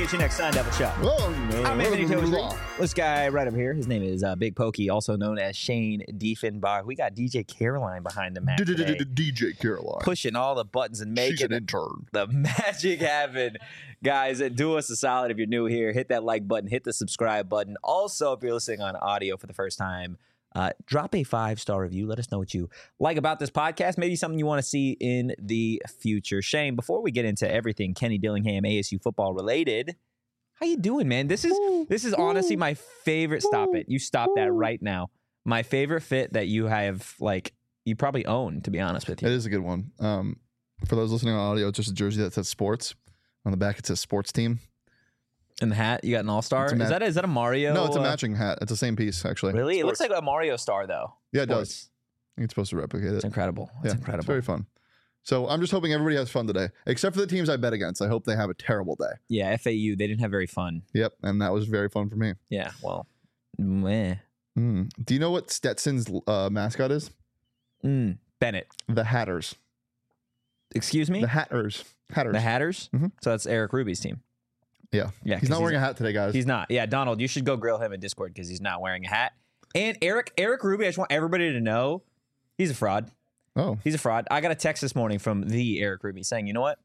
PHNX Sun Devil Show. I'm Anthony Tozer. This guy right up here, his name is Big Pokey, also known as Shane Diefenbach. We got DJ Caroline behind the Mac today. DJ Caroline. Pushing all the buttons and She's making an intern. the magic happen. Guys, do us a solid if you're new here. Hit that like button. Hit the subscribe button. Also, if you're listening on audio for the first time, drop a 5-star review. Let us know what you like about this podcast. Maybe something you want to see in the future. Shane, before we get into everything Kenny Dillingham ASU football related, how you doing, man? This is honestly my favorite. Stop it. You stop that right now. My favorite fit that you have, like, you probably own, to be honest with you. It is a good one. For those listening on audio, it's just a jersey that says sports. On the back, it says sports team. And the hat, you got an all-star? Is that a Mario? No, it's a matching hat. It's the same piece, actually. Really? Sports. It looks like a Mario star, though. Yeah, it does. I think it's supposed to replicate it. It's incredible. It's incredible. It's very fun. So I'm just hoping everybody has fun today, except for the teams I bet against. I hope they have a terrible day. Yeah, FAU, they didn't have very fun. Yep, and that was very fun for me. Yeah, well, meh. Do you know what Stetson's mascot is? Bennett. The Hatters. Excuse me? The Hatters. The Hatters? Mm-hmm. So that's Eric Ruby's team. Yeah. He's not wearing a hat today, guys. He's not. Yeah, Donald, you should go grill him in Discord because he's not wearing a hat. And Eric Ruby, I just want everybody to know, he's a fraud. Oh. He's a fraud. I got a text this morning from the Eric Ruby saying, you know what?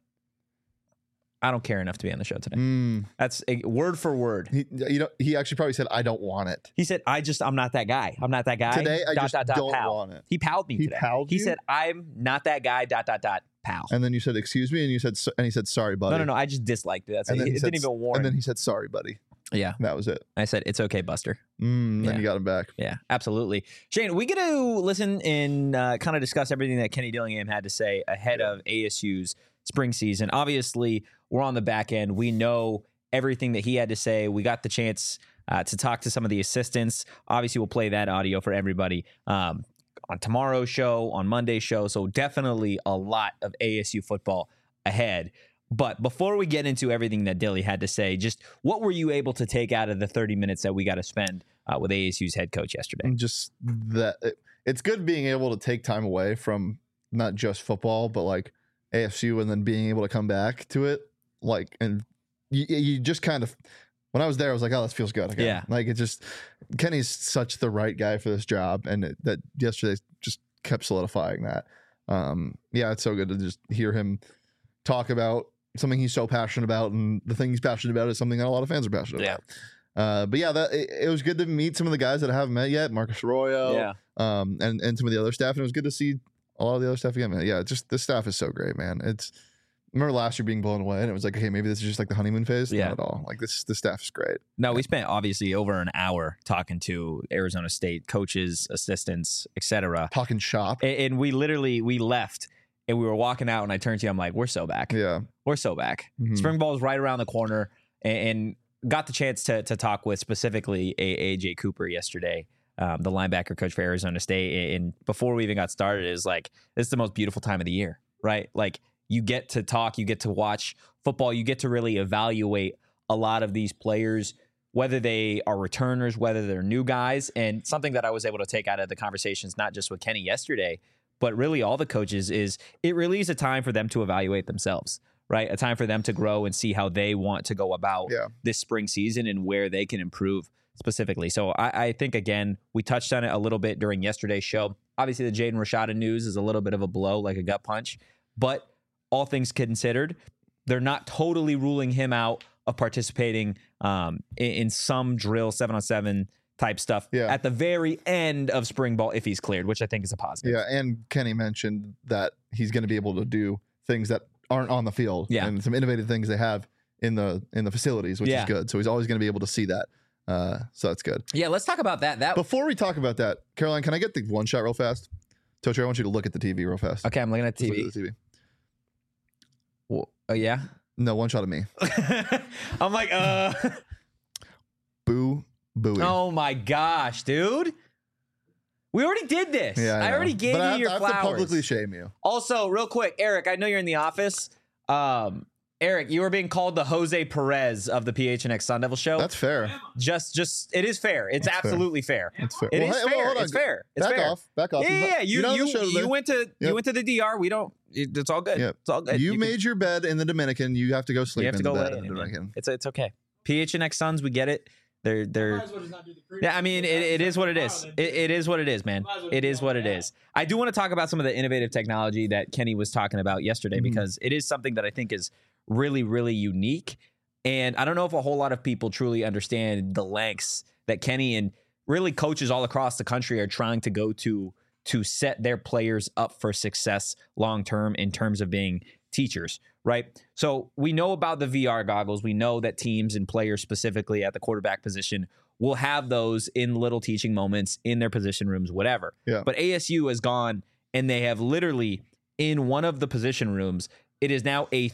I don't care enough to be on the show today. That's word for word. He actually probably said, I don't want it. He said, I'm not that guy. I'm not that guy. Today, I just don't want it. He palled me today. He said, I'm not that guy, ... pal. And then you said, excuse me, and he said, sorry, buddy. No, I just disliked it. That's it. It didn't even warn. And then he said, sorry, buddy. Yeah. That was it. I said, it's okay, Buster. Then you got him back. Yeah, absolutely. Shane, we get to listen and kind of discuss everything that Kenny Dillingham had to say ahead of ASU's spring season. Obviously, we're on the back end. We know everything that he had to say. We got the chance to talk to some of the assistants. Obviously, we'll play that audio for everybody on tomorrow's show, on Monday's show. So definitely a lot of ASU football ahead. But before we get into everything that Dilly had to say, just what were you able to take out of the 30 minutes that we got to spend with ASU's head coach yesterday? Just that it's good being able to take time away from not just football, but like ASU, and then being able to come back to it. Like, and you just kind of, when I was there, I was like, oh, this feels good again. Yeah. Like, it just, Kenny's such the right guy for this job. And that yesterday just kept solidifying that. Yeah, it's so good to just hear him talk about something he's so passionate about, and the thing he's passionate about is something that a lot of fans are passionate about. But yeah, it was good to meet some of the guys that I haven't met yet, Marcus Arroyo, and some of the other staff, and it was good to see a lot of the other staff again. Man. Yeah, just this staff is so great, man. I remember last year being blown away, and it was like, okay, maybe this is just like the honeymoon phase. Yeah. Not at all. Like this staff is great. No, we spent obviously over an hour talking to Arizona State coaches, assistants, etc. Talking shop, and we left. And we were walking out, and I turned to you. I'm like, we're so back. Yeah. We're so back. Spring ball is right around the corner, and got the chance to talk with specifically AJ Cooper yesterday, the linebacker coach for Arizona State. And before we even got started, it was like, this is the most beautiful time of the year, right? Like, you get to talk, you get to watch football, you get to really evaluate a lot of these players, whether they are returners, whether they're new guys. And something that I was able to take out of the conversations, not just with Kenny yesterday, but really all the coaches, is it really is a time for them to evaluate themselves, right? A time for them to grow and see how they want to go about this spring season and where they can improve specifically. So I think, again, we touched on it a little bit during yesterday's show. Obviously, the Jaden Rashada news is a little bit of a blow, like a gut punch. But all things considered, they're not totally ruling him out of participating in some drill 7-on-7 type stuff at the very end of spring ball if he's cleared, which I think is a positive. Yeah, and Kenny mentioned that he's going to be able to do things that aren't on the field, and some innovative things they have in the facilities, which is good. So he's always going to be able to see that. So that's good. Yeah, let's talk about that. Before we talk about that, Caroline, can I get the one shot real fast? Tocho, I want you to look at the TV real fast. Okay, I'm looking at the TV. Look at the TV. Well, yeah? No, one shot of me. I'm like, Boo. Booey. Oh my gosh, dude. We already did this. Yeah, I already gave you your flowers. I have to publicly shame you. Also, real quick, Eric, I know you're in the office. Eric, you were being called the Jose Perez of the PHNX Sun Devil show. That's fair. Just it is fair. It's absolutely fair. It's fair. It is fair. It's fair. It's back fair. off. Back off. Yeah. You went to the DR. We don't. it's all good. Yeah. It's all good. You made your bed in the Dominican. You have to go sleep You have in to the go bed lay in the in it, man. Dominican. It's okay. PHNX Suns, we get it. They're yeah, I mean, it is what it is. It is what it is, man. It is what it is. I do want to talk about some of the innovative technology that Kenny was talking about yesterday because it is something that I think is really, really unique. And I don't know if a whole lot of people truly understand the lengths that Kenny and really coaches all across the country are trying to go to set their players up for success long term in terms of being teachers, right? So we know about the VR goggles. We know that teams and players specifically at the quarterback position will have those in little teaching moments in their position rooms, whatever. Yeah. But ASU has gone and they have literally in one of the position rooms, it is now a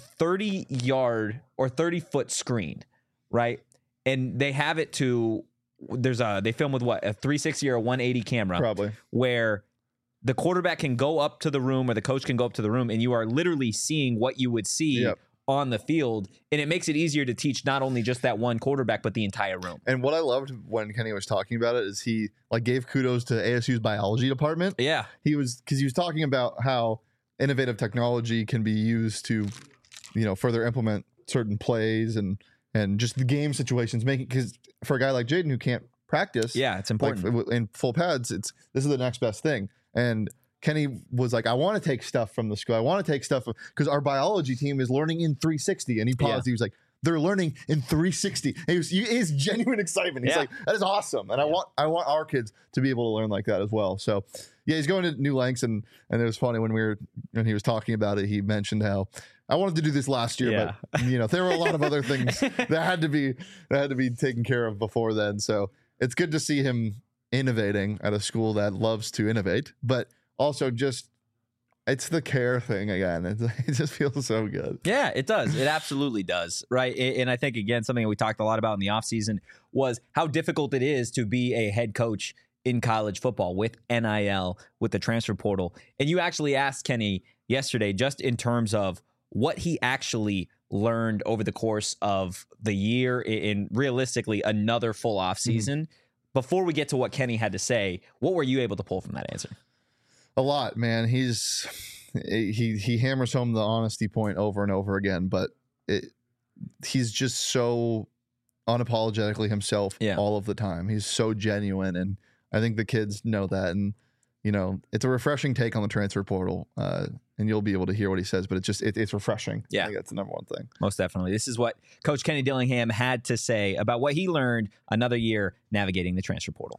30-yard or 30-foot screen, right? And they have it to they film with what, a 360 or a 180 camera, Probably, where the quarterback can go up to the room or the coach can go up to the room and you are literally seeing what you would see on the field. And it makes it easier to teach not only just that one quarterback, but the entire room. And what I loved when Kenny was talking about it is he like gave kudos to ASU's biology department. Yeah. Because he was talking about how innovative technology can be used to, further implement certain plays and just the game situations, because for a guy like Jaden who can't practice, it's important. Like, in full pads, this is the next best thing. And Kenny was like, I want to take stuff from the school. I want to take stuff because our biology team is learning in 360. And he paused. He was like, they're learning in 360. And he's genuine excitement. He's like, that is awesome. And I want our kids to be able to learn like that as well. So yeah, he's going to new lengths. And it was funny when he was talking about it, he mentioned how I wanted to do this last year, but there were a lot of other things that had to be taken care of before then. So it's good to see him innovating at a school that loves to innovate, but also just it's the care thing again. It just feels so good. Yeah, it does. It absolutely does. Right. And I think, again, something that we talked a lot about in the offseason was how difficult it is to be a head coach in college football with NIL, with the transfer portal. And you actually asked Kenny yesterday, just in terms of what he actually learned over the course of the year in realistically another full offseason. Before we get to what Kenny had to say, what were you able to pull from that answer? A lot, man. He hammers home the honesty point over and over again, but he's just so unapologetically himself all of the time. He's so genuine, and I think the kids know that. And it's a refreshing take on the transfer portal, and you'll be able to hear what he says. But it's refreshing. Yeah, I think that's the number one thing. Most definitely. This is what Coach Kenny Dillingham had to say about what he learned another year navigating the transfer portal.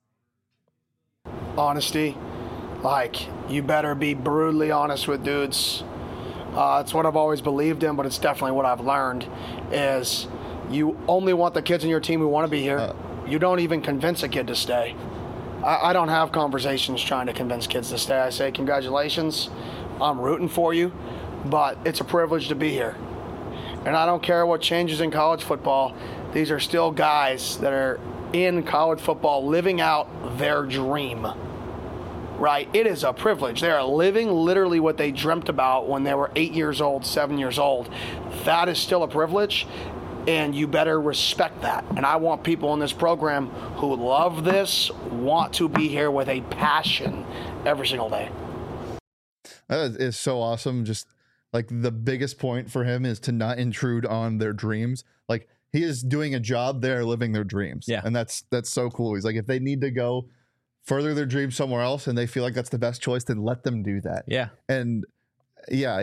Honesty. Like, you better be brutally honest with dudes. It's what I've always believed in, but it's definitely what I've learned is you only want the kids in your team who want to be here. You don't even convince a kid to stay. I don't have conversations trying to convince kids to stay. I say, congratulations, I'm rooting for you, but it's a privilege to be here. And I don't care what changes in college football. These are still guys that are in college football living out their dream. Right? It is a privilege. They are living literally what they dreamt about when they were 8 years old, 7 years old. That is still a privilege, and you better respect that. And I want people in this program who love this, want to be here with a passion every single day. That is so awesome. Just like the biggest point for him is to not intrude on their dreams. Like, he is doing a job, they're living their dreams. Yeah. And that's so cool. He's like, if they need to go further their dreams somewhere else and they feel like that's the best choice, then let them do that. Yeah. And yeah,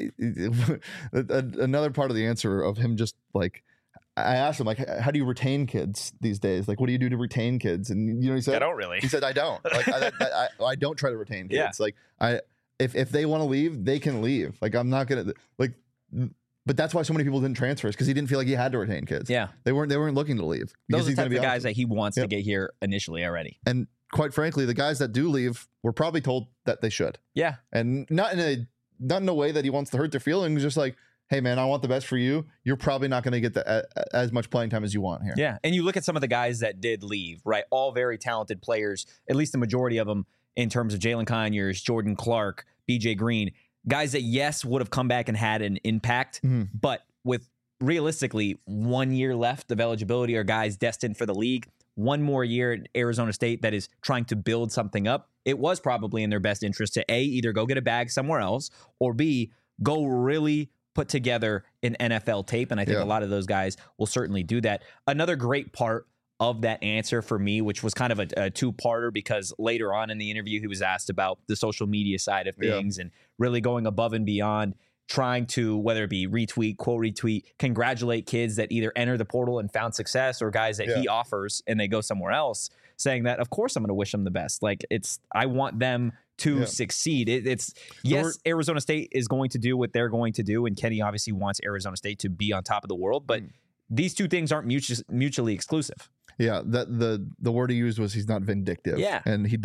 another part of the answer of him just like, I asked him, like, how do you retain kids these days? Like, what do you do to retain kids? And he said, I don't really. He said, I don't. Like, I don't try to retain kids. Yeah. Like, if they want to leave, they can leave. Like, I'm not gonna like. But that's why so many people didn't transfer, is because he didn't feel like he had to retain kids. Yeah, they weren't looking to leave. Those are the type of guys that he wants to get here initially already. And quite frankly, the guys that do leave were probably told that they should. Yeah, and not in a way that he wants to hurt their feelings. Just like, hey man, I want the best for you. You're probably not going to get as much playing time as you want here. Yeah, and you look at some of the guys that did leave, right? All very talented players, at least the majority of them, in terms of Jalen Conyers, Jordan Clark, BJ Green, guys that yes would have come back and had an impact, but with realistically 1 year left of eligibility, or guys destined for the league, one more year at Arizona State that is trying to build something up, it was probably in their best interest to A, either go get a bag somewhere else, or B, go really put together an NFL tape. And I think a lot of those guys will certainly do that. Another great part of that answer for me, which was kind of a two-parter, because later on in the interview, he was asked about the social media side of things and really going above and beyond, trying to, whether it be retweet, quote retweet, congratulate kids that either enter the portal and found success, or guys that he offers and they go somewhere else, saying that, of course, I'm going to wish them the best. Like, I want them to succeed. Arizona State is going to do what they're going to do, and Kenny obviously wants Arizona State to be on top of the world, but these two things aren't mutually exclusive. Yeah, that the word he used was he's not vindictive. Yeah, and he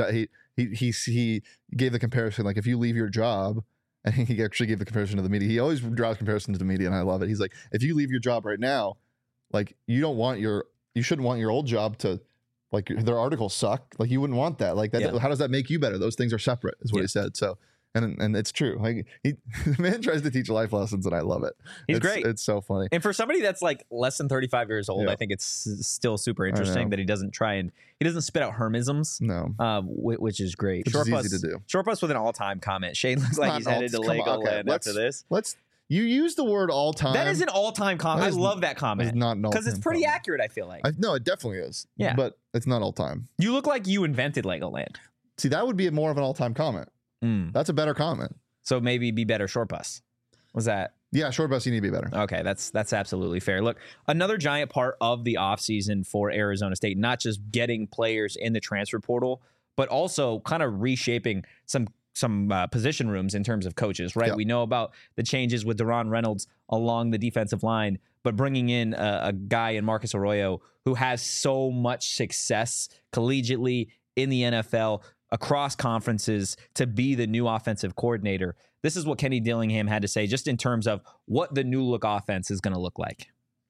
gave the comparison, like, if you leave your job. And he actually gave the comparison to the media. He always draws comparison to the media, and I love it. He's like, if you leave your job right now, like, you shouldn't want your old job to, like, their articles suck. Like, you wouldn't want that. Like, that. How does that make you better? Those things are separate, is what he said. So, and it's true. Like, the man tries to teach life lessons, and I love it. He's great. It's so funny. And for somebody that's like less than 35 years old, I think it's still super interesting that he doesn't spit out hermisms. No, which is great. Which is easy to do. Short Bus with an all-time comment. Shane looks like he's headed to Legoland after this. You use the word all-time. That is an all-time comment. I love that comment. It's not an all-time, because it's pretty accurate, I feel like. No, it definitely is. Yeah. But it's not all-time. You look like you invented Legoland. See, that would be more of an all-time comment. That's a better comment. So maybe be better, Short Bus. Was that? Yeah, Short Bus, you need to be better. Okay, that's absolutely fair. Look, another giant part of the offseason for Arizona State, not just getting players in the transfer portal, but also kind of reshaping some position rooms in terms of coaches, right? We know about the changes with Deron Reynolds along the defensive line, but bringing in a guy in Marcus Arroyo who has so much success collegiately in the NFL, across conferences, to be the new offensive coordinator. This is what Kenny Dillingham had to say just in terms of what the new look offense is going to look like.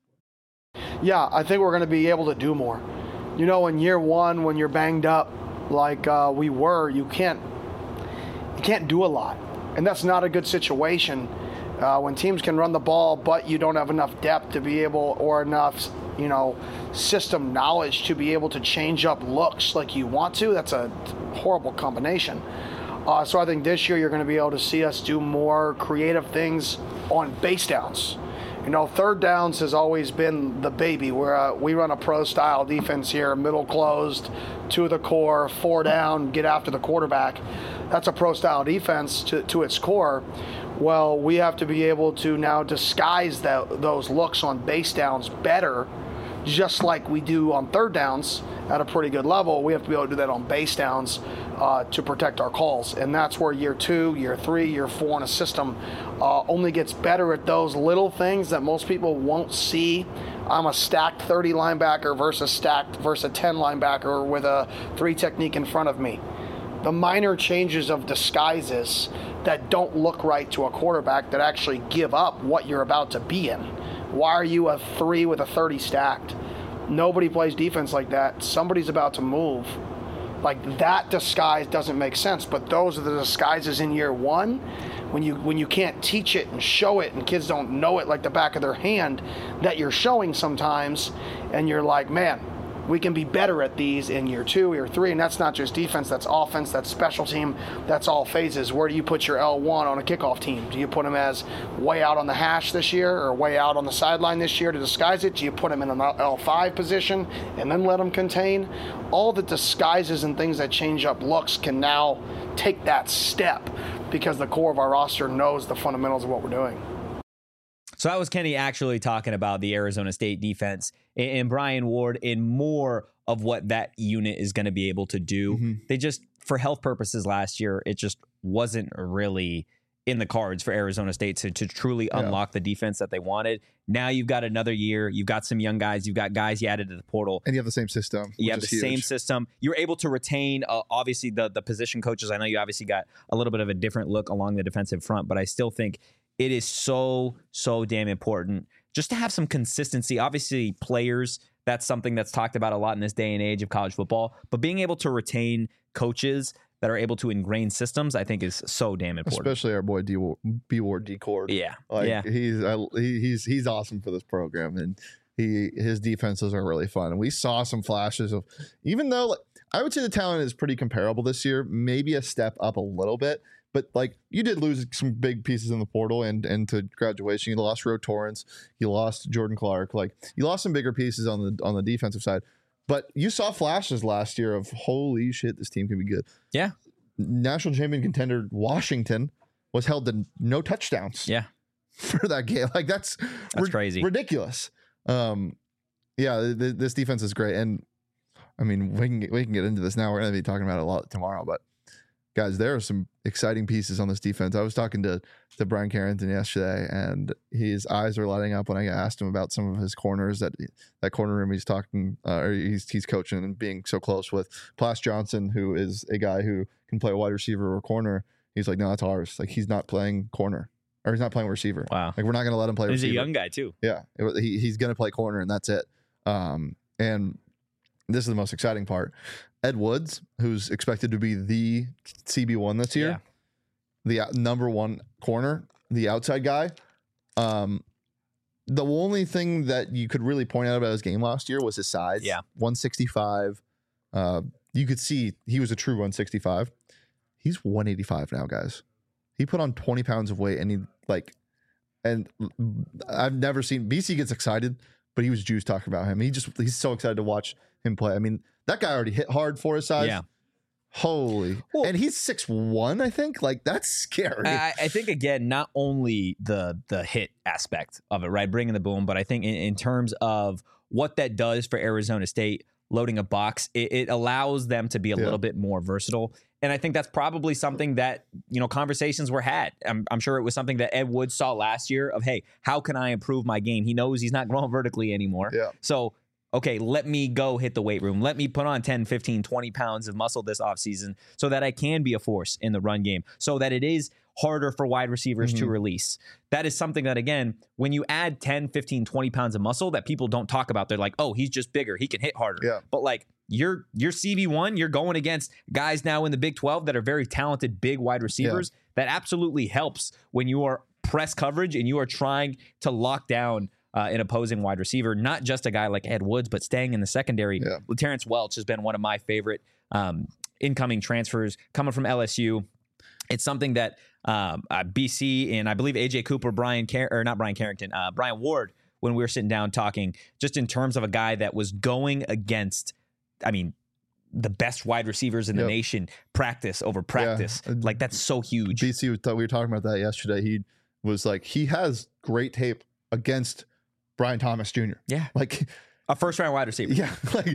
Yeah, I think we're going to be able to do more. You know, in year one, when you're banged up like we were, you can't do a lot. And that's not a good situation. When teams can run the ball, but you don't have enough depth to be able, or enough, system knowledge to be able to change up looks like you want to, that's a horrible combination. So I think this year you're going to be able to see us do more creative things on base downs. Third downs has always been the baby, where we run a pro-style defense here, middle closed, to the core, 4 down, get after the quarterback. That's a pro-style defense to its core. Well, we have to be able to now disguise those looks on base downs better, just like we do on third downs at a pretty good level. We have to be able to do that on base downs to protect our calls. And that's where year 2, year 3, year 4 in a system only gets better at those little things that most people won't see. I'm a stacked 30 linebacker versus a 10 linebacker with a 3 technique in front of me. The minor changes of disguises that don't look right to a quarterback that actually give up what you're about to be in. Why are you a 3 with a 30 stacked? Nobody plays defense like that. Somebody's about to move. Like, that disguise doesn't make sense, but those are the disguises in year one when you can't teach it and show it, and kids don't know it like the back of their hand, that you're showing sometimes, and you're like, man, we can be better at these in year 2, year 3, and that's not just defense, that's offense, that's special team, that's all phases. Where do you put your L1 on a kickoff team? Do you put them as way out on the hash this year, or way out on the sideline this year to disguise it? Do you put them in an L5 position and then let them contain? All the disguises and things that change up looks can now take that step, because the core of our roster knows the fundamentals of what we're doing. So that was Kenny actually talking about the Arizona State defense and Brian Ward in more of what that unit is going to be able to do. They just, for health purposes last year, it just wasn't really in the cards for Arizona State to truly unlock the defense that they wanted. Now you've got another year. You've got some young guys. You've got guys you added to the portal. And you have the same system. You have the same system. You're able to retain, obviously, the position coaches. I know you obviously got a little bit of a different look along the defensive front, but I still think it is so damn important just to have some consistency. Obviously, players, that's something that's talked about a lot in this day and age of college football, but being able to retain coaches that are able to ingrain systems, I think, is so damn important. Especially our boy B Ward D-Cord. Yeah. He's awesome for this program. And his defenses are really fun. And we saw some flashes of, even though like, I would say the talent is pretty comparable this year, maybe a step up a little bit. But like you did lose some big pieces in the portal and to graduation. You lost Ro Torrance, you lost Jordan Clark, like you lost some bigger pieces on the defensive side. But you saw flashes last year of holy shit, this team can be good. Yeah. National champion contender Washington was held to no touchdowns. Yeah. For that game. Like that's crazy. Ridiculous. This defense is great. And I mean, we can get into this now. We're going to be talking about it a lot tomorrow, but guys, there are some exciting pieces on this defense. I was talking to Brian Carrington yesterday, and his eyes are lighting up when I asked him about some of his corners that corner room he's talking, or he's coaching and being so close with. Plas Johnson, who is a guy who can play a wide receiver or corner. He's like, no, that's ours. Like he's not playing corner, or he's not playing receiver. Wow. Like we're not going to let him play receiver. He's a young guy too. Yeah. He's going to play corner, and that's it. And this is the most exciting part. Ed Woods, who's expected to be the CB1 this year, the number one corner, the outside guy. The only thing that you could really point out about his game last year was his size. Yeah. 165. You could see he was a true 165. He's 185 now, guys. He put on 20 pounds of weight, and I've never seen BC gets excited, but he was juiced talking about him. He's so excited to watch him play. I mean, that guy already hit hard for his size. Yeah. Holy. Well, and he's 6'1", I think. Like, that's scary. I think, again, not only the hit aspect of it, right? Bringing the boom, but I think in terms of what that does for Arizona State, loading a box, it allows them to be a little bit more versatile. And I think that's probably something that, conversations were had. I'm sure it was something that Ed Woods saw last year of, hey, how can I improve my game? He knows he's not growing vertically anymore. Yeah. So, okay, let me go hit the weight room. Let me put on 10, 15, 20 pounds of muscle this offseason so that I can be a force in the run game, so that it is harder for wide receivers to release. That is something that, again, when you add 10, 15, 20 pounds of muscle that people don't talk about, they're like, oh, he's just bigger. He can hit harder. Yeah. But like you're CB1, you're going against guys now in the Big 12 that are very talented, big wide receivers. Yeah. That absolutely helps when you are press coverage and you are trying to lock down an opposing wide receiver, not just a guy like Ed Woods, but staying in the secondary. Yeah. Terrence Welch has been one of my favorite incoming transfers coming from LSU. It's something that BC and I believe AJ Cooper, Brian Ward, when we were sitting down talking, just in terms of a guy that was going against, the best wide receivers in the nation, practice over practice. Yeah. Like, that's so huge. BC, we were talking about that yesterday. He was like, he has great tape against Brian Thomas Jr. Yeah. Like a first-round wide receiver. Yeah.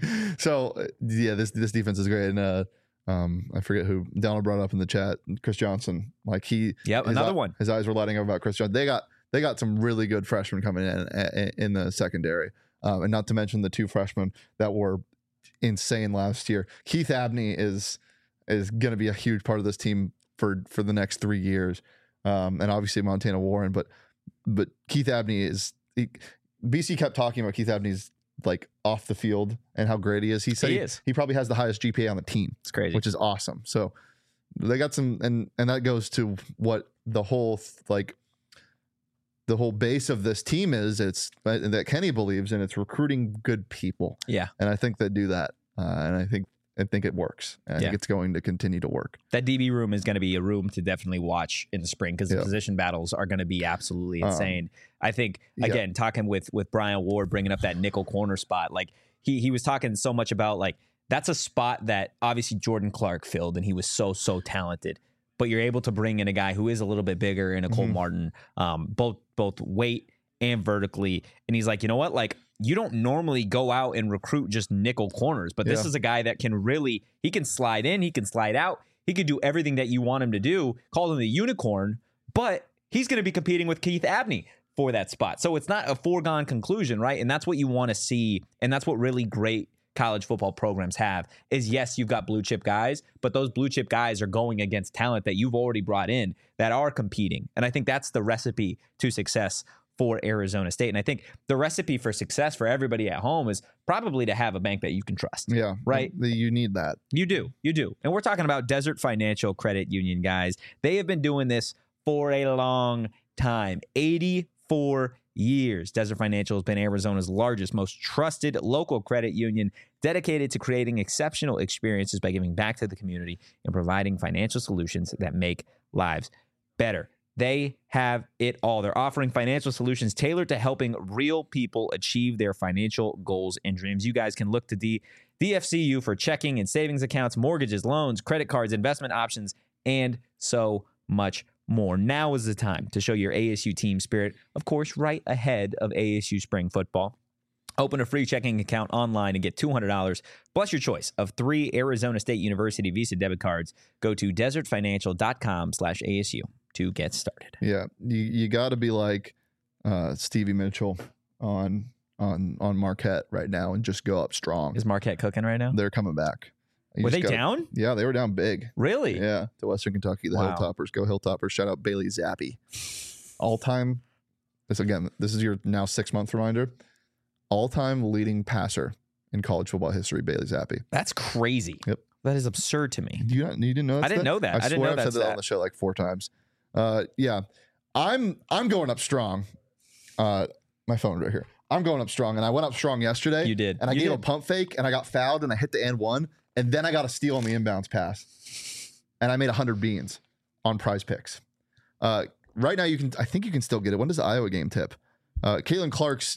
This defense is great. And I forget who Donald brought up in the chat, Chris Johnson. Like another one. His eyes were lighting up about Chris Johnson. They got some really good freshmen coming in the secondary. And not to mention the two freshmen that were insane last year. Keith Abney is going to be a huge part of this team for the next 3 years. And obviously Montana Warren, but Keith Abney BC kept talking about Keith Abney's like off the field and how great he is. He said he probably has the highest GPA on the team. It's crazy, which is awesome. So they got some, and that goes to what the whole the whole base of this team is. It's that Kenny believes in. It's recruiting good people. Yeah, and I think they do that, and I think it works. And I think it's going to continue to work. That DB room is going to be a room to definitely watch in the spring because the position battles are going to be absolutely insane. I think, again, talking with Brian Ward, bringing up that nickel corner spot, like he was talking so much about, like, that's a spot that obviously Jordan Clark filled, and he was so talented. But you're able to bring in a guy who is a little bit bigger in a Cole Martin, both weight and vertically. And he's like, you know what? Like, you don't normally go out and recruit just nickel corners, but this is a guy that he can slide in, he can slide out, he can do everything that you want him to do. Call him the unicorn, but he's going to be competing with Keith Abney for that spot. So it's not a foregone conclusion, right? And that's what you want to see. And that's what really great college football programs have is, yes, you've got blue chip guys, but those blue chip guys are going against talent that you've already brought in that are competing. And I think that's the recipe to success for Arizona State. And I think the recipe for success for everybody at home is probably to have a bank that you can trust. Yeah. Right? You need that. You do. And we're talking about Desert Financial Credit Union, guys. They have been doing this for a long time. 84 years. Desert Financial has been Arizona's largest, most trusted local credit union, dedicated to creating exceptional experiences by giving back to the community and providing financial solutions that make lives better. They have it all. They're offering financial solutions tailored to helping real people achieve their financial goals and dreams. You guys can look to DFCU for checking and savings accounts, mortgages, loans, credit cards, investment options, and so much more. Now is the time to show your ASU team spirit, of course, right ahead of ASU spring football. Open a free checking account online and get $200 plus your choice of 3 Arizona State University Visa debit cards. Go to desertfinancial.com/ASU to get started. Yeah, you got to be like Stevie Mitchell on Marquette right now and just go up strong. Is Marquette cooking right now? They're coming back. Were they down? Yeah, they were down big. Really? Yeah, to Western Kentucky, the Wow. Hilltoppers. Go Hilltoppers. Shout out Bailey Zappi. All-time, this is your now 6-month reminder, all-time leading passer in college football history, Bailey Zappi. That's crazy. Yep. That is absurd to me. You didn't know that? I didn't know that. I didn't swear know I've said that's that on the show like 4 times. Yeah, I'm going up strong. My phone right here. I'm going up strong, and I went up strong yesterday. You did. And I You gave did. a pump fake, and I got fouled, and I hit the and one, and then I got a steal on the inbounds pass, and I made 100 beans on Prize Picks. Right now, I think you can still get it. When does the Iowa game tip? Caitlin Clark's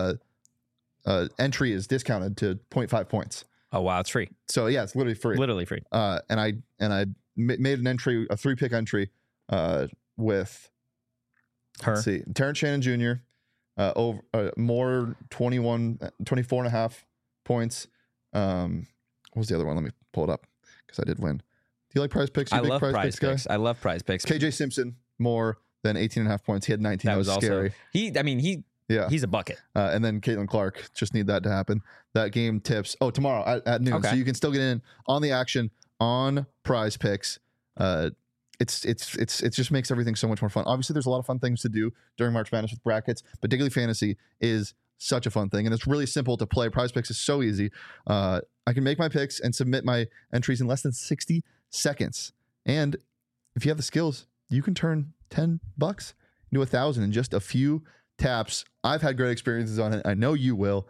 entry is discounted to 0.5 points. Oh, wow. It's free. So yeah, it's literally free. Literally free. And I made an entry, a 3-pick entry, with Her. let's see, Terrence Shannon Jr. Over more 24.5 points. What was the other one? Let me pull it up because I did win. Do you like Prize Picks? You I big love Prize guy? Picks. I love Prize Picks. KJ Simpson more than 18.5 points. He had 19. That was also scary. He's a bucket. And then Caitlin Clark, just need that to happen. That game tips tomorrow at noon, Okay. so you can still get in on the action on Prize Picks. It just makes everything so much more fun. Obviously, there's a lot of fun things to do during March Madness with brackets, but Daily Fantasy is such a fun thing, and it's really simple to play. Prize Picks is so easy. I can make my picks and submit my entries in less than 60 seconds. And if you have the skills, you can turn $10 into $1,000 in just a few taps. I've had great experiences on it. I know you will.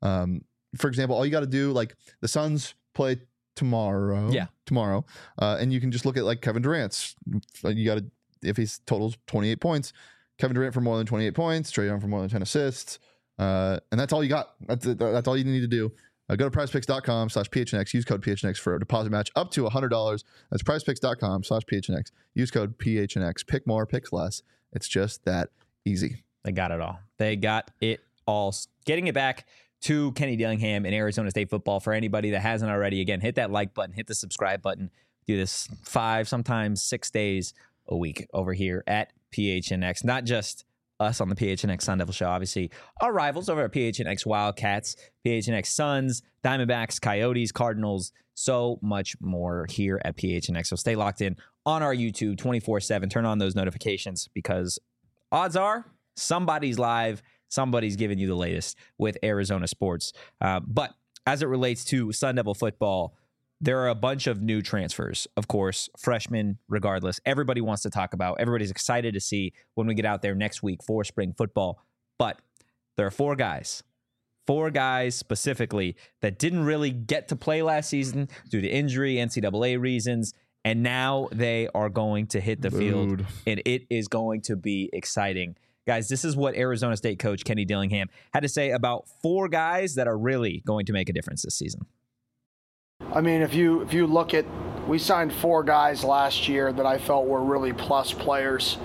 For example, all you got to do, like the Suns play tomorrow. Yeah. Tomorrow. And you can just look at like Kevin Durant's. You got to, if he totals 28 points, Kevin Durant for more than 28 points, Trae Young for more than 10 assists. And that's all you got. That's all you need to do. Go to prizepicks.com/PHNX. Use code PHNX for a deposit match up to $100. That's prizepicks.com/PHNX. Use code PHNX. Pick more, pick less. It's just that easy. They got it all. They got it all. Getting it back to Kenny Dillingham and Arizona State football. For anybody that hasn't already, again, hit that like button, hit the subscribe button. Do this 5, sometimes 6 days a week over here at PHNX. Not just us on the PHNX Sun Devil Show. Obviously, our rivals over at PHNX Wildcats, PHNX Suns, Diamondbacks, Coyotes, Cardinals, so much more here at PHNX. So stay locked in on our YouTube 24/7. Turn on those notifications because odds are somebody's live, somebody's giving you the latest with Arizona sports. But as it relates to Sun Devil football, there are a bunch of new transfers, of course, freshmen, regardless. Everybody wants to talk about. Everybody's excited to see when we get out there next week for spring football. But there are 4 guys specifically that didn't really get to play last season due to injury, NCAA reasons, and now they are going to hit the field, and it is going to be exciting. Guys, this is what Arizona State coach Kenny Dillingham had to say about 4 guys that are really going to make a difference this season. I mean, if you look at, we signed 4 guys last year that I felt were really plus players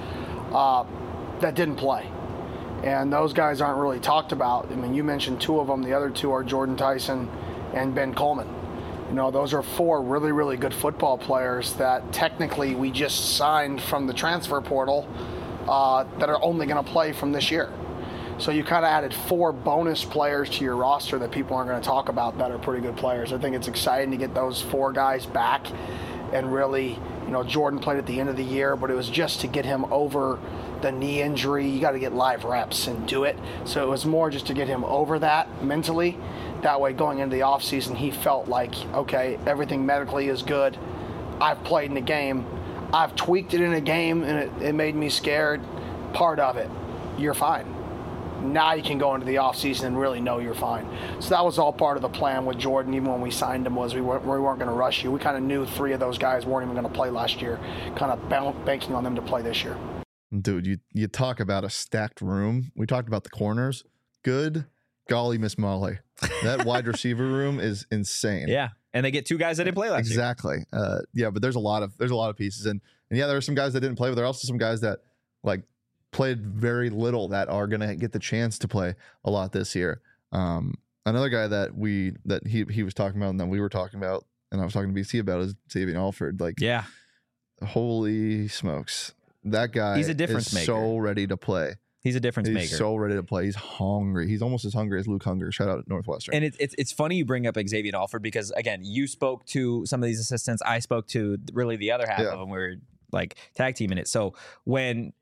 that didn't play. And those guys aren't really talked about. I mean, you mentioned 2 of them. The other 2 are Jordan Tyson and Ben Coleman. You know, those are 4 really, really good football players that technically we just signed from the transfer portal that are only going to play from this year. So you kind of added 4 bonus players to your roster that people aren't going to talk about that are pretty good players. I think it's exciting to get those 4 guys back and really, you know, Jordan played at the end of the year, but it was just to get him over the knee injury. You got to get live reps and do it. So it was more just to get him over that mentally. That way going into the offseason, he felt like, okay, everything medically is good. I've played in a game. I've tweaked it in a game and it made me scared. Part of it, you're fine. Now you can go into the offseason and really know you're fine. So that was all part of the plan with Jordan, even when we signed him, was we weren't going to rush you. We kind of knew 3 of those guys weren't even going to play last year, kind of banking on them to play this year. Dude, you talk about a stacked room. We talked about the corners. Good golly, Miss Molly. That wide receiver room is insane. Yeah. And they get 2 guys that didn't play last year. Exactly. Yeah, but there's a lot of pieces. And yeah, there are some guys that didn't play, but there are also some guys that like played very little that are gonna get the chance to play a lot this year. Another guy that he was talking about and that we were talking about and I was talking to BC about is Xavier Alford. Like, yeah, holy smokes. That guy he's a difference is maker. So ready to play. He's a difference maker. He's so ready to play. He's hungry. He's almost as hungry as Luke Hunger. Shout out at Northwestern. And it's funny you bring up Xavier Alford because, again, you spoke to some of these assistants. I spoke to really the other half of them. We were like tag teaming it. So when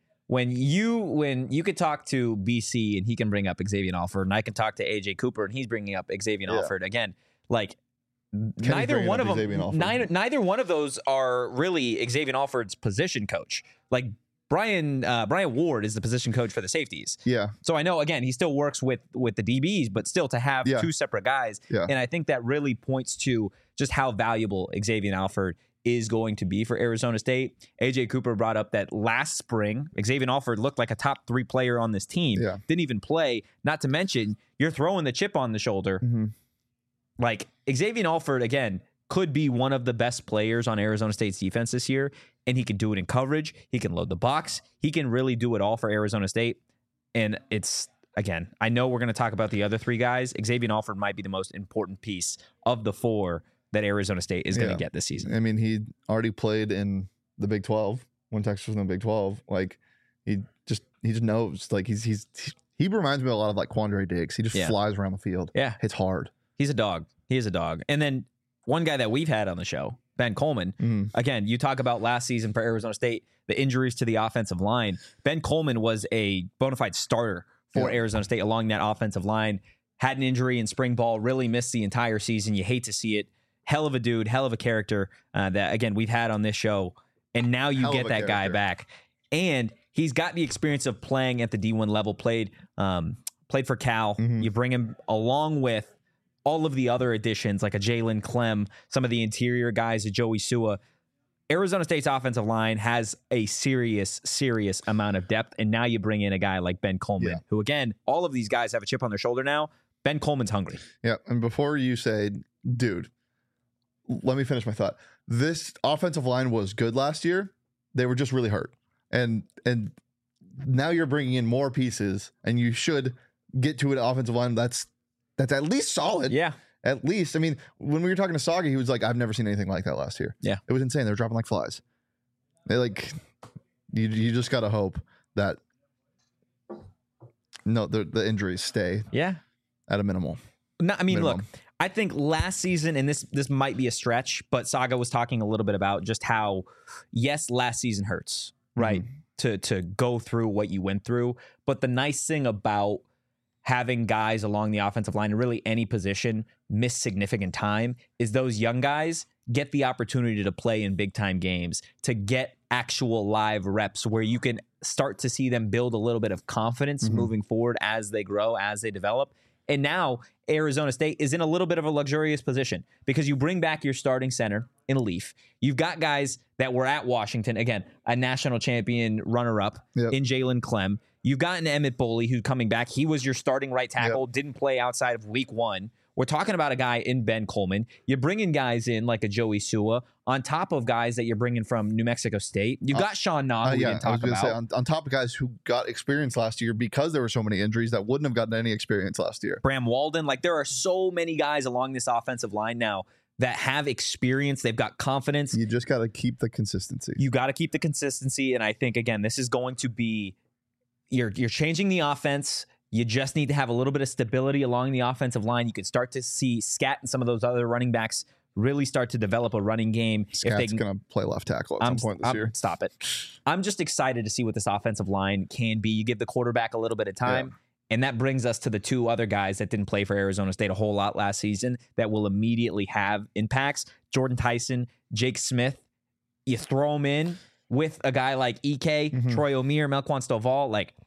you could talk to BC and he can bring up Xavier Alford, and I can talk to AJ Cooper and he's bringing up Xavier Alford again, like neither one of them, neither one of those are really Xavier Alford's position coach. Like Brian Ward is the position coach for the safeties. Yeah. So I know, again, he still works with the DBs, but still to have 2 separate guys. Yeah. And I think that really points to just how valuable Xavier Alford is going to be for Arizona State. AJ Cooper brought up that last spring, Xavier Alford looked like a top 3 player on this team. Yeah. Didn't even play. Not to mention, you're throwing the chip on the shoulder. Mm-hmm. Like, Xavier Alford, again, could be one of the best players on Arizona State's defense this year, and he can do it in coverage. He can load the box. He can really do it all for Arizona State. And it's, again, I know we're going to talk about the other 3 guys. Xavier Alford might be the most important piece of the 4 that Arizona State is going to get this season. I mean, he already played in the Big 12 when Texas was in the Big 12. Like, he just knows. Like, he reminds me a lot of like Quandre Diggs. He just flies around the field. Yeah. Hits hard. He's a dog. He is a dog. And then one guy that we've had on the show, Ben Coleman. Again, you talk about last season for Arizona State, the injuries to the offensive line. Ben Coleman was a bona fide starter for Arizona State along that offensive line. Had an injury in spring ball, really missed the entire season. You hate to see it. Hell of a dude, hell of a character that, again, we've had on this show. And now you get that guy back. And he's got the experience of playing at the D1 level, played for Cal. You bring him along with all of the other additions, like a Jalen Clem, some of the interior guys, a Joey Sua. Arizona State's offensive line has a serious amount of depth. And now you bring in a guy like Ben Coleman, who, again, all of these guys have a chip on their shoulder now. Ben Coleman's hungry. Yeah, and before you say, dude, let me finish my thought. This offensive line was good last year. They were just really hurt. And now you're bringing in more pieces, and you should get to an offensive line that's at least solid. Yeah. At least. I mean, when we were talking to Saga, he was like, I've never seen anything like that last year. Yeah. It was insane. They were dropping like flies. They like, you just got to hope that the injuries stay at a minimal. No, I mean, look, I think last season, and this might be a stretch, but Saga was talking a little bit about just how, yes, last season hurts, right? To go through what you went through. But the nice thing about having guys along the offensive line, and really any position, miss significant time, is those young guys get the opportunity to play in big time games, to get actual live reps where you can start to see them build a little bit of confidence moving forward as they grow, as they develop. And now Arizona State is in a little bit of a luxurious position because you bring back your starting center in Leaf. You've got guys that were at Washington, again, a national champion runner-up in Jalen Clem. You've got an Emmett Boley who's coming back. He was your starting right tackle, didn't play outside of week 1. We're talking about a guy in Ben Coleman. You're bringing guys in like a Joey Sua on top of guys that you're bringing from New Mexico State. You've got Sean Nah, who we didn't talk about. Say, on top of guys who got experience last year because there were so many injuries that wouldn't have gotten any experience last year. Bram Walden. Like, there are so many guys along this offensive line now that have experience. They've got confidence. You just got to keep the consistency. You got to keep the consistency. And I think, again, this is going to be, you're changing the offense. You just need to have a little bit of stability along the offensive line. You can start to see Scat and some of those other running backs really start to develop a running game. Scat's going to play left tackle at some point this year. Stop it. I'm just excited to see what this offensive line can be. You give the quarterback a little bit of time, and that brings us to the 2 other guys that didn't play for Arizona State a whole lot last season that will immediately have impacts. Jordan Tyson, Jake Smith. You throw them in with a guy like EK, Troy O'Meara, Melquan Stovall. Like,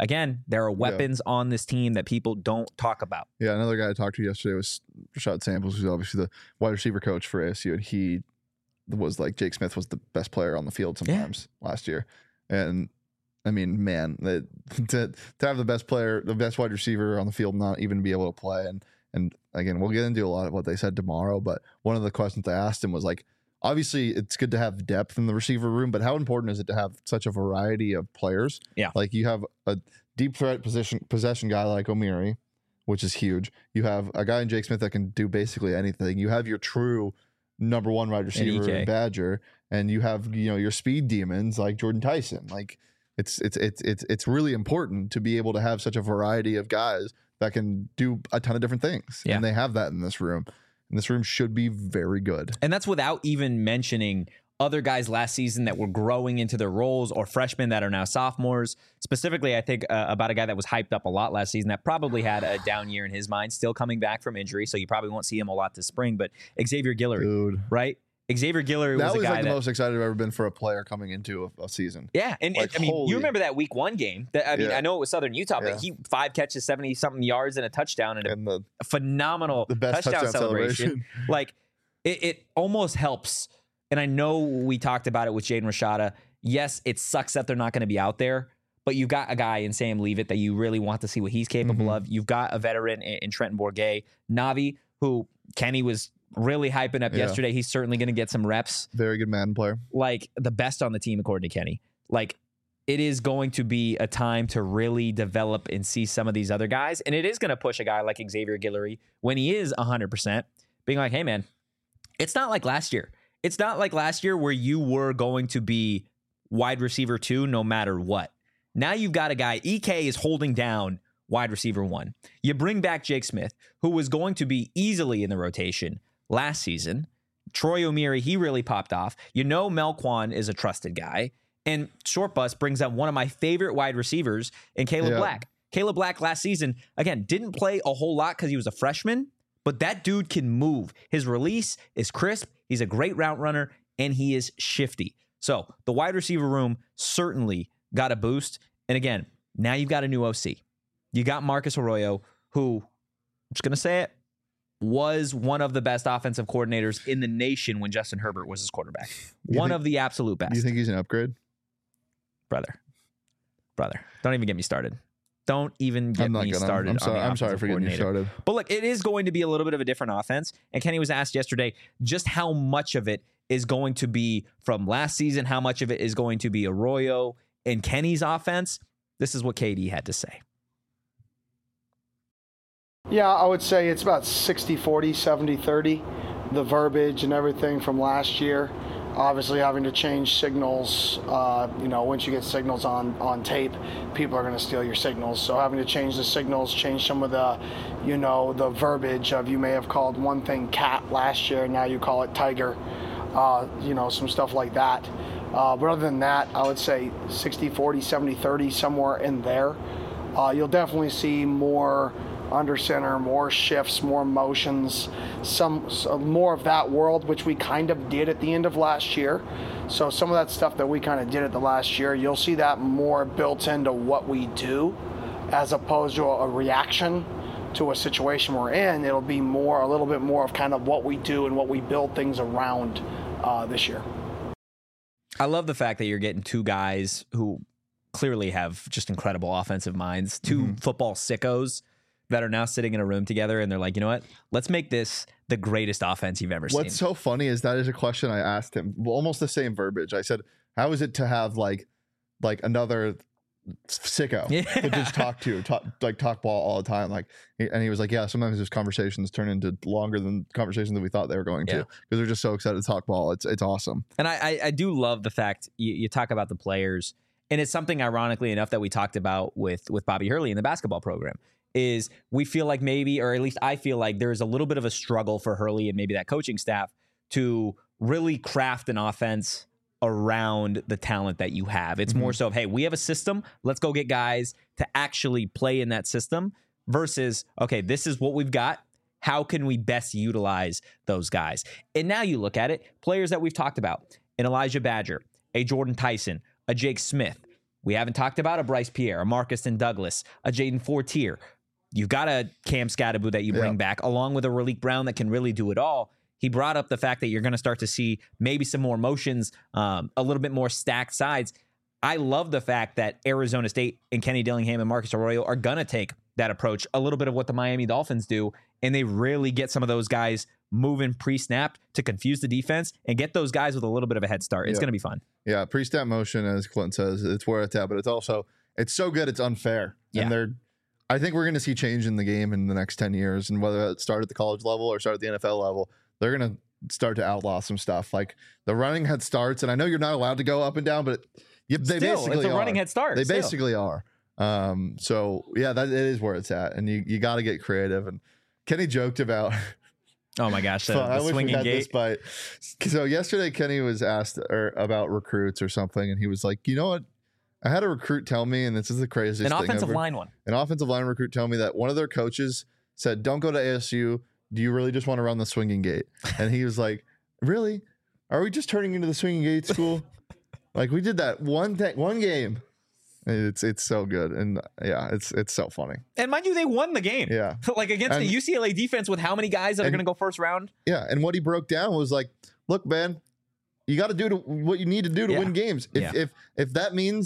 again, there are weapons on this team that people don't talk about. Yeah, another guy I talked to yesterday was Rashad Samples, who's obviously the wide receiver coach for ASU, and he was like, Jake Smith was the best player on the field sometimes last year. And I mean, man, to have the best player, the best wide receiver on the field, not even be able to play. And again, we'll get into a lot of what they said tomorrow, but one of the questions I asked him was like, obviously it's good to have depth in the receiver room, but how important is it to have such a variety of players? Yeah. Like you have a deep threat possession guy like O'Meary, which is huge. You have a guy in Jake Smith that can do basically anything. You have your true number one wide receiver in Badger, and you have, you know, your speed demons like Jordan Tyson. Like it's really important to be able to have such a variety of guys that can do a ton of different things. Yeah. And they have that in this room. And this room should be very good. And that's without even mentioning other guys last season that were growing into their roles, or freshmen that are now sophomores. Specifically, I think about a guy that was hyped up a lot last season that probably had a down year in his mind, still coming back from injury, so you probably won't see him a lot this spring, but Xavier Guillory, Dude. right? Xavier Guillory That was a guy like the most excited I've ever been for a player coming into a season. Yeah, and Like, I mean, holy- you remember that week 1 game? I know it was Southern Utah, but he 5 catches, 70-something yards, and a touchdown, and a phenomenal the best touchdown celebration. Like, it almost helps. And I know we talked about it with Jaden Rashada. Yes, it sucks that they're not going to be out there, but you've got a guy in Sam Leavitt that you really want to see what he's capable of. You've got a veteran in Trenton Bourguet. Navi, who Kenny was really hyping up yesterday. He's certainly going to get some reps. Very good Madden player. Like, the best on the team, according to Kenny. Like, it is going to be a time to really develop and see some of these other guys. And it is going to push a guy like Xavier Guillory, when he is 100%, being like, hey, man, it's not like last year. It's not like last year where you were going to be wide receiver 2 no matter what. Now you've got a guy, EK is holding down wide receiver 1. You bring back Jake Smith, who was going to be easily in the rotation last season. Troy O'Meary, he really popped off. You know Melquan is a trusted guy. And Short Bus brings up one of my favorite wide receivers in Caleb Black. Caleb Black last season, again, didn't play a whole lot because he was a freshman, but that dude can move. His release is crisp. He's a great route runner, and he is shifty. So the wide receiver room certainly got a boost. And again, now you've got a new OC. You got Marcus Arroyo, who, I'm just going to say it, was one of the best offensive coordinators in the nation when Justin Herbert was his quarterback. One of the absolute best. Do you think he's an upgrade? Brother, don't even get me started. Don't even get me started. I'm sorry for getting you started. But look, it is going to be a little bit of a different offense. And Kenny was asked yesterday just how much of it is going to be from last season, how much of it is going to be Arroyo and Kenny's offense. This is what KD had to say. Yeah, I would say it's about 60-40, 70-30, the verbiage and everything from last year. Obviously having to change signals, once you get signals on tape, people are going to steal your signals. So having to change the signals, change some of the, the verbiage of, you may have called one thing cat last year, now you call it tiger, some stuff like that. But other than that, I would say 60-40, 70-30, somewhere in there. You'll definitely see more under center, more shifts, more motions, some more of that world, which we kind of did at the end of last year. So some of that stuff that we kind of did at the last year, you'll see that more built into what we do as opposed to a reaction to a situation we're in. It'll be a little bit more of kind of what we do and what we build things around this year. I love the fact that you're getting 2 guys who clearly have just incredible offensive minds, 2 football sickos that are now sitting in a room together, and they're like, you know what? Let's make this the greatest offense you've ever seen. What's so funny is that is a question I asked him. Almost the same verbiage. I said, how is it to have like another sicko to just talk ball all the time? And he was like, yeah, sometimes those conversations turn into longer than conversations that we thought they were going to, because they're just so excited to talk ball. It's awesome. And I do love the fact you talk about the players, and it's something ironically enough that we talked about with Bobby Hurley in the basketball program. Is we feel like maybe, or at least I feel like there's a little bit of a struggle for Hurley and maybe that coaching staff to really craft an offense around the talent that you have. It's more so of, hey, we have a system. Let's go get guys to actually play in that system versus, okay, this is what we've got. How can we best utilize those guys? And now you look at it, players that we've talked about, an Elijah Badger, a Jordan Tyson, a Jake Smith, We haven't talked about a Bryce Pierre, a Marcus and Douglas, a Jaden Fortier. You've got a Cam Scatterbu that you bring back, along with a Raleek Brown that can really do it all. He brought up the fact that you're going to start to see maybe some more motions, a little bit more stacked sides. I love the fact that Arizona State and Kenny Dillingham and Marcus Arroyo are going to take that approach, a little bit of what the Miami Dolphins do, and they really get some of those guys moving pre-snapped to confuse the defense and get those guys with a little bit of a head start. It's going to be fun. Yeah, pre-snap motion, as Clinton says, it's where it's at, but it's so good it's unfair. Yeah. And I think we're going to see change in the game in the next 10 years, and whether it start at the college level or start at the NFL level, they're going to start to outlaw some stuff. Like the running head starts, and I know you're not allowed to go up and down, but they basically it's a running head start. They basically are. So yeah, that it is where it's at, and you got to get creative. And Kenny joked about. Oh my gosh, the swinging gate. So yesterday, Kenny was asked about recruits or something, and he was like, "You know what? I had a recruit tell me, and this is the craziest thing An offensive ever. line one. An offensive line recruit tell me that one of their coaches said, "Don't go to ASU. Do you really just want to run the swinging gate?" And he was like, "Really? Are we just turning into the swinging gate school? Like we did that one game." It's so good, and yeah, it's so funny. And mind you, they won the game. Yeah, like against the UCLA defense with how many guys that are going to go first round. Yeah, and what he broke down was like, look, man, you got to do what you need to do to win games. If that means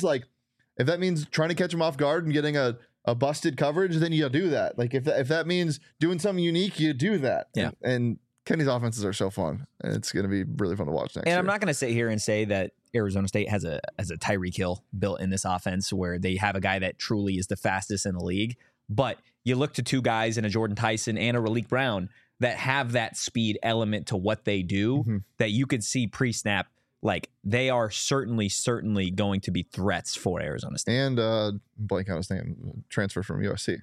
trying to catch them off guard and getting a busted coverage, then you do that. Like if that means doing something unique, you do that. Yeah, and Kenny's offenses are so fun, and it's going to be really fun to watch next year. And I'm not going to sit here and say that Arizona State has a Tyreek Hill built in this offense where they have a guy that truly is the fastest in the league. But you look to two guys in a Jordan Tyson and a Raleek Brown that have that speed element to what they do that you could see pre-snap. Like they are certainly going to be threats for Arizona State. And blank out his name, transfer from USC.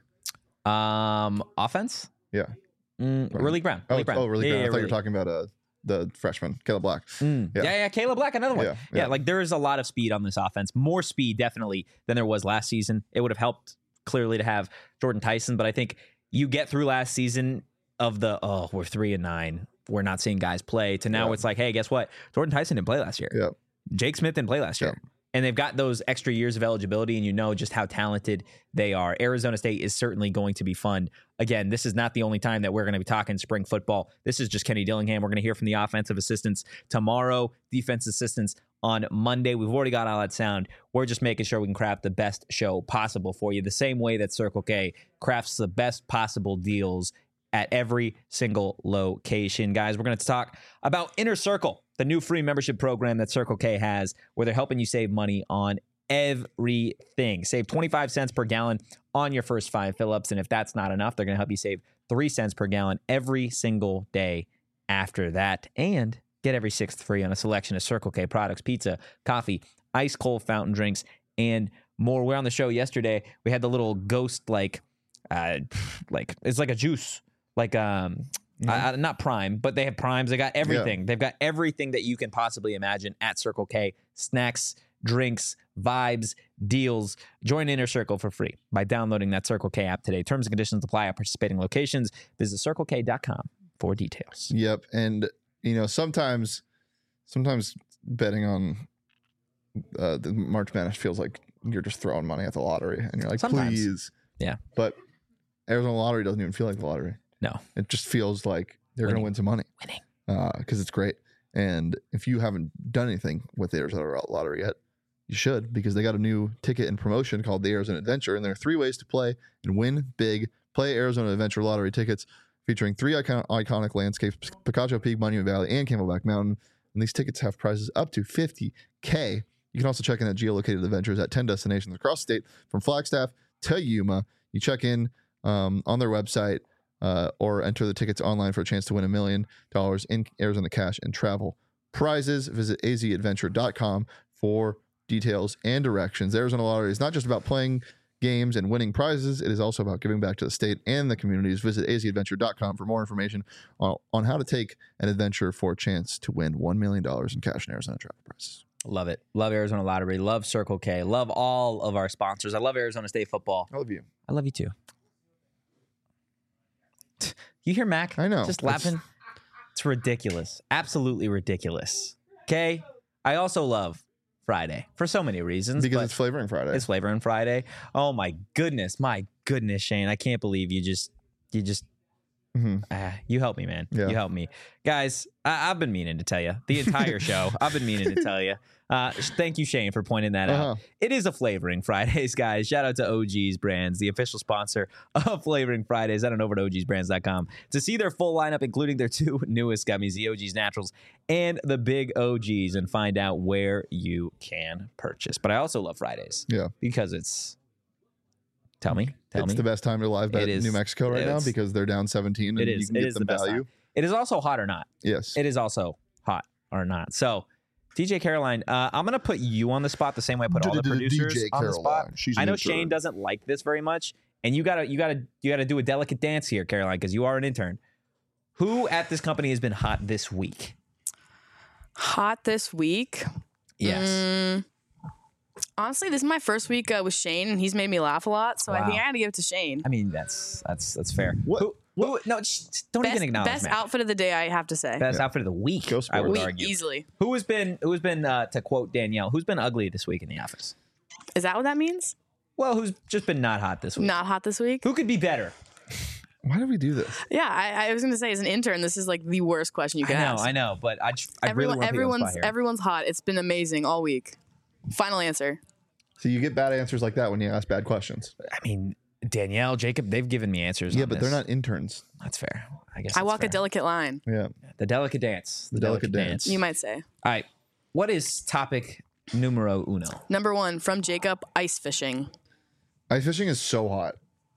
Offense? Yeah. Raleek Brown. Raleek Brown. I thought you were Raleek. talking about the freshman, Caleb Black. Yeah, Caleb Black, another one. Yeah. Like there is a lot of speed on this offense. More speed, definitely, than there was last season. It would have helped clearly to have Jordan Tyson, but I think you get through last season of we're 3-9. We're not seeing guys play to now it's like, hey, guess what? Jordan Tyson didn't play last year. Yeah. Jake Smith didn't play last year. And they've got those extra years of eligibility, and you know just how talented they are. Arizona State is certainly going to be fun. Again, this is not the only time that we're going to be talking spring football. This is just Kenny Dillingham. We're going to hear from the offensive assistants tomorrow, defense assistants on Monday. We've already got all that sound. We're just making sure we can craft the best show possible for you, the same way that Circle K crafts the best possible deals at every single location. Guys, we're going to talk about Inner Circle, the new free membership program that Circle K has, where they're helping you save money on everything. Save 25 cents per gallon on your first 5 fill-ups, and if that's not enough, they're going to help you save 3 cents per gallon every single day after that, and get every 6th free on a selection of Circle K products, pizza, coffee, ice cold fountain drinks, and more. We're on the show yesterday. We had the little ghost, like it's like a juice. Like not Prime, but they have Primes. They got everything. Yeah. They've got everything that you can possibly imagine at Circle K. Snacks, drinks, vibes, deals. Join Inner Circle for free by downloading that Circle K app today. Terms and conditions apply at participating locations. Visit CircleK.com for details. Yep. And sometimes betting on the March Madness feels like you're just throwing money at the lottery, and you're like, please. Yeah. But Arizona Lottery doesn't even feel like the lottery. No. It just feels like they're going to win some money. Because it's great. And if you haven't done anything with the Arizona Lottery yet, you should, because they got a new ticket and promotion called the Arizona Adventure. And there are 3 ways to play and win big. Play Arizona Adventure Lottery tickets featuring 3 iconic landscapes, Picacho Peak, Monument Valley, and Camelback Mountain. And these tickets have prizes up to $50K. You can also check in at geolocated adventures at 10 destinations across the state, from Flagstaff to Yuma. You check in on their website, or enter the tickets online for a chance to win $1 million in Arizona cash and travel prizes. Visit azadventure.com for details and directions. The Arizona Lottery is not just about playing games and winning prizes. It is also about giving back to the state and the communities. Visit azadventure.com for more information on how to take an adventure for a chance to win $1 million in cash and Arizona travel prizes. Love it. Love Arizona Lottery. Love Circle K. Love all of our sponsors. I love Arizona State football. I love you. I love you too. You hear Mac? I know. Just laughing. It's ridiculous. Absolutely ridiculous. Okay? I also love Friday for so many reasons. Because but it's Flavoring Friday. it's Flavoring Friday. Oh my goodness, Shane! I can't believe you just you help me, man. Yeah. You help me, guys. I've been meaning to tell you the entire show. I've been meaning to tell you. Thank you, Shane, for pointing that out. It is a Flavoring Fridays, guys. Shout out to OG's Brands, the official sponsor of Flavoring Fridays. Head on over to ogsbrands.com to see their full lineup, including their 2 newest gummies, the OG's Naturals and the Big OGs, and find out where you can purchase. But I also love Fridays. Yeah. Because it's... Tell me. It's the best time to live bet New Mexico right now because they're down 17 and you can get them value. It is also hot or not. Yes. It is also hot or not. So, DJ Caroline, I'm going to put you on the spot the same way I put all the producers DJ on the spot. She's I know an Shane intern. doesn't like this very much, and you gotta do a delicate dance here, Caroline, because you are an intern. Who at this company has been hot this week? Hot this week? Yes. Honestly, this is my first week with Shane, and he's made me laugh a lot. So I think I got to give it to Shane. I mean, that's fair. What? No, don't even acknowledge best man. outfit of the day, I have to say. Best outfit of the week. Go I would Sports. argue. Easily. Who has been to quote Danielle? Who's been ugly this week in the office? Is that what that means? Well, who's just been not hot this week? Not hot this week? Who could be better? Why do we do this? Yeah, I was going to say, as an intern, this is like the worst question you could ask. I know, but I really want to put you on the spot here. Everyone's hot. It's been amazing all week. Final answer. So you get bad answers like that when you ask bad questions. I mean, Danielle, Jacob, they've given me answers. Yeah, on but this. they're not interns. That's fair. I guess I that's walk fair. a delicate line, Yeah. The delicate dance. The delicate dance. you might say. All right. What is topic numero uno? Number 1, from Jacob, ice fishing. Ice fishing is so hot.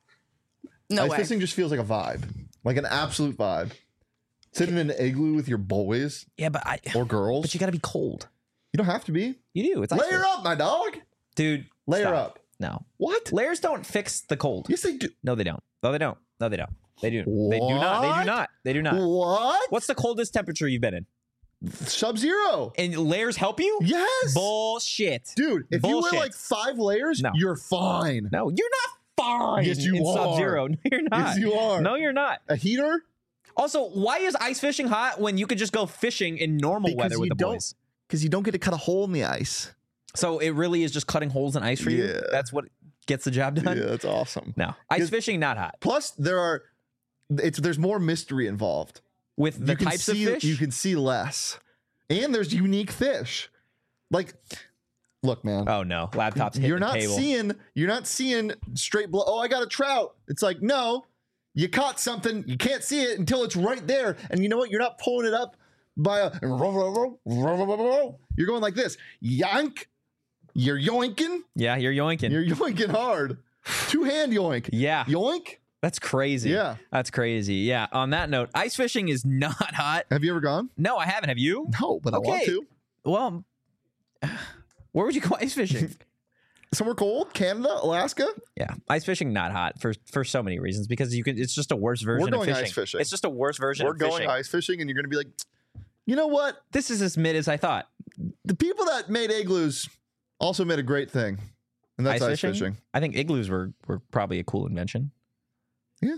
No Ice way. fishing just feels like a vibe. Like an absolute vibe. Sitting in an igloo with your boys Yeah, but or girls. But you got to be cold. You don't have to be. You do. It's ice Layer fish. up, my dog. Dude. Layer stop. up. No. What? Layers don't fix the cold. Yes, they do. No, they don't. No, they don't. No, they don't. They do. They do not. They do not. They do not. What? What's the coldest temperature you've been in? Sub-zero. And layers help you? Yes. Bullshit. Dude, if Bullshit. you wear like 5 layers, No. you're fine. No, you're not fine. Yes, you in are. Sub-Zero. No, you're not. Yes, you are. No, you're not. A heater? Also, why is ice fishing hot when you could just go fishing in normal weather with the boys? Because you don't get to cut a hole in the ice. So it really is just cutting holes in ice for you? Yeah. That's what gets the job done? Yeah, that's awesome. No. Ice fishing, not hot. Plus, there's more mystery involved. With the You can types of see- fish? You can see less. And there's unique fish. Like, look, man. Oh, no. Laptops hit You're the not table. seeing straight blow. Oh, I got a trout. It's like, no, you caught something. You can't see it until it's right there. And you know what? You're not pulling it up by a. You're going like this. Yank. You're yoinking. Yeah, you're yoinking. You're yoinking hard. 2-hand yoink. Yeah. Yoink. That's crazy. Yeah. That's crazy. Yeah. On that note, ice fishing is not hot. Have you ever gone? No, I haven't. Have you? No, but I want Okay. to. Well, where would you go ice fishing? Somewhere cold? Canada? Alaska? Yeah, ice fishing not hot for so many reasons because you can. It's just a worse version going of fishing. ice fishing. It's just a worse version We're of going fishing. ice fishing, and you're going to be like, you know what? This is as mid as I thought. The people that made igloos also made a great thing, and that's ice fishing. I think igloos were probably a cool invention. Yeah.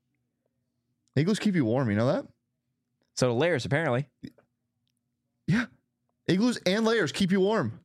Igloos keep you warm, you know that? So layers apparently. Yeah. Igloos and layers keep you warm.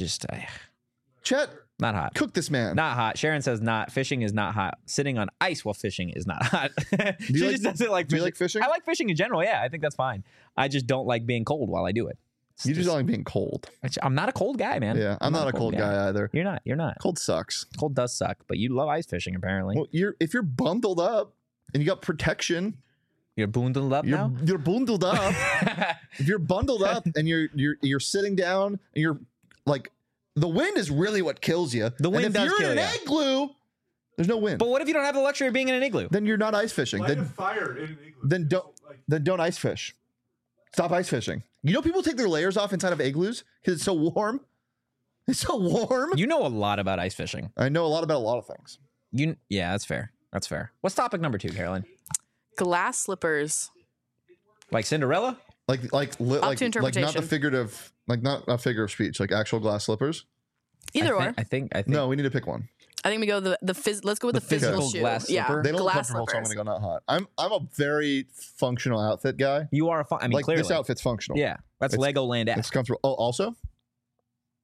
Chet, Not hot. cook this man. Not hot. Sharon says not. Fishing is not hot. Sitting on ice while fishing is not hot. She you like- just doesn't like do fishing. you like fishing? I like fishing in general. Yeah, I think that's fine. I just don't like being cold while I do it. It's You just don't like being cold. I'm not a cold guy, man. Yeah, I'm not a cold guy either. You're not. You're not. Cold sucks. Cold does suck, but you love ice fishing apparently. Well, if you're bundled up and you got protection, You're bundled up you're now. you're bundled up. If you're bundled up and you're sitting down and you're like, the wind is really what kills you. The wind and if does you're kill in an ya. igloo, there's no wind. But what if you don't have the luxury of being in an igloo? Then you're not ice fishing. Light a fire in an igloo. Then don't ice fish. Stop ice fishing. You know people take their layers off inside of igloos because it's so warm. It's so warm. You know a lot about ice fishing. I know a lot about a lot of things. Yeah, that's fair. That's fair. What's topic number 2, Carolyn? Glass slippers. Like Cinderella? Like to not the interpretation. figurative, like not a figure of speech, like actual glass slippers. Either or. I think. No, we need to pick one. I think we go let's go with the physical physical shoe. glass Yeah, slipper? They don't look glass comfortable, so I'm slippers. gonna go not hot. I'm a very functional outfit guy. You are. I mean, Like clearly. this outfit's functional. Yeah, that's It's- Legoland It's esque. comfortable. Oh, also,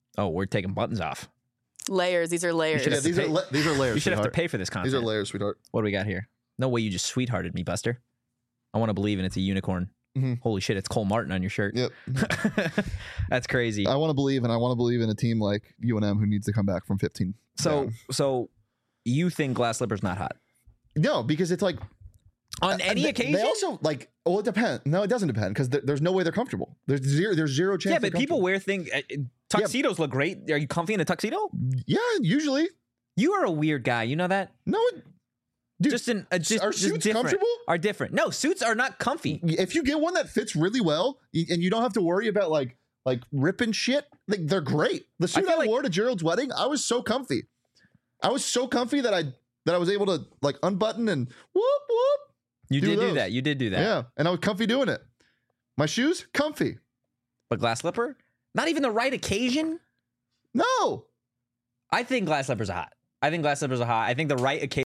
Oh, we're taking buttons off. Layers. These are layers. should Yeah, have these to are these are layers. You should have to sweetheart. pay for this content. These are layers, sweetheart. What do we got here? No way you just sweethearted me, Buster. I want to believe in it's a unicorn. Holy shit, it's Cole Martin on your shirt. Yep. That's crazy. I want to believe, and I want to believe in a team like UNM who needs to come back from 15. down. So you think glass slipper's not hot? No, because it's like On any occasion? They also like. Well, it depends. No, it doesn't depend because there's no way they're comfortable. There's zero chance. Yeah, they're but people comfortable. wear things. Tuxedos look great. Are you comfy in a tuxedo? Yeah, usually. You are a weird guy. You know that? No, dude. Just are suits different. comfortable? Are different. No, suits are not comfy. If you get one that fits really well and you don't have to worry about like ripping shit, like they're great. The suit feel I like- wore to Gerald's wedding, I was so comfy. I was so comfy that I was able to like unbutton and whoop whoop. You did do those. that. You did do that. Yeah, and I was comfy doing it. My shoes, comfy. But glass slipper, not even the right occasion. No. I think glass slippers are hot. I think the right occasion.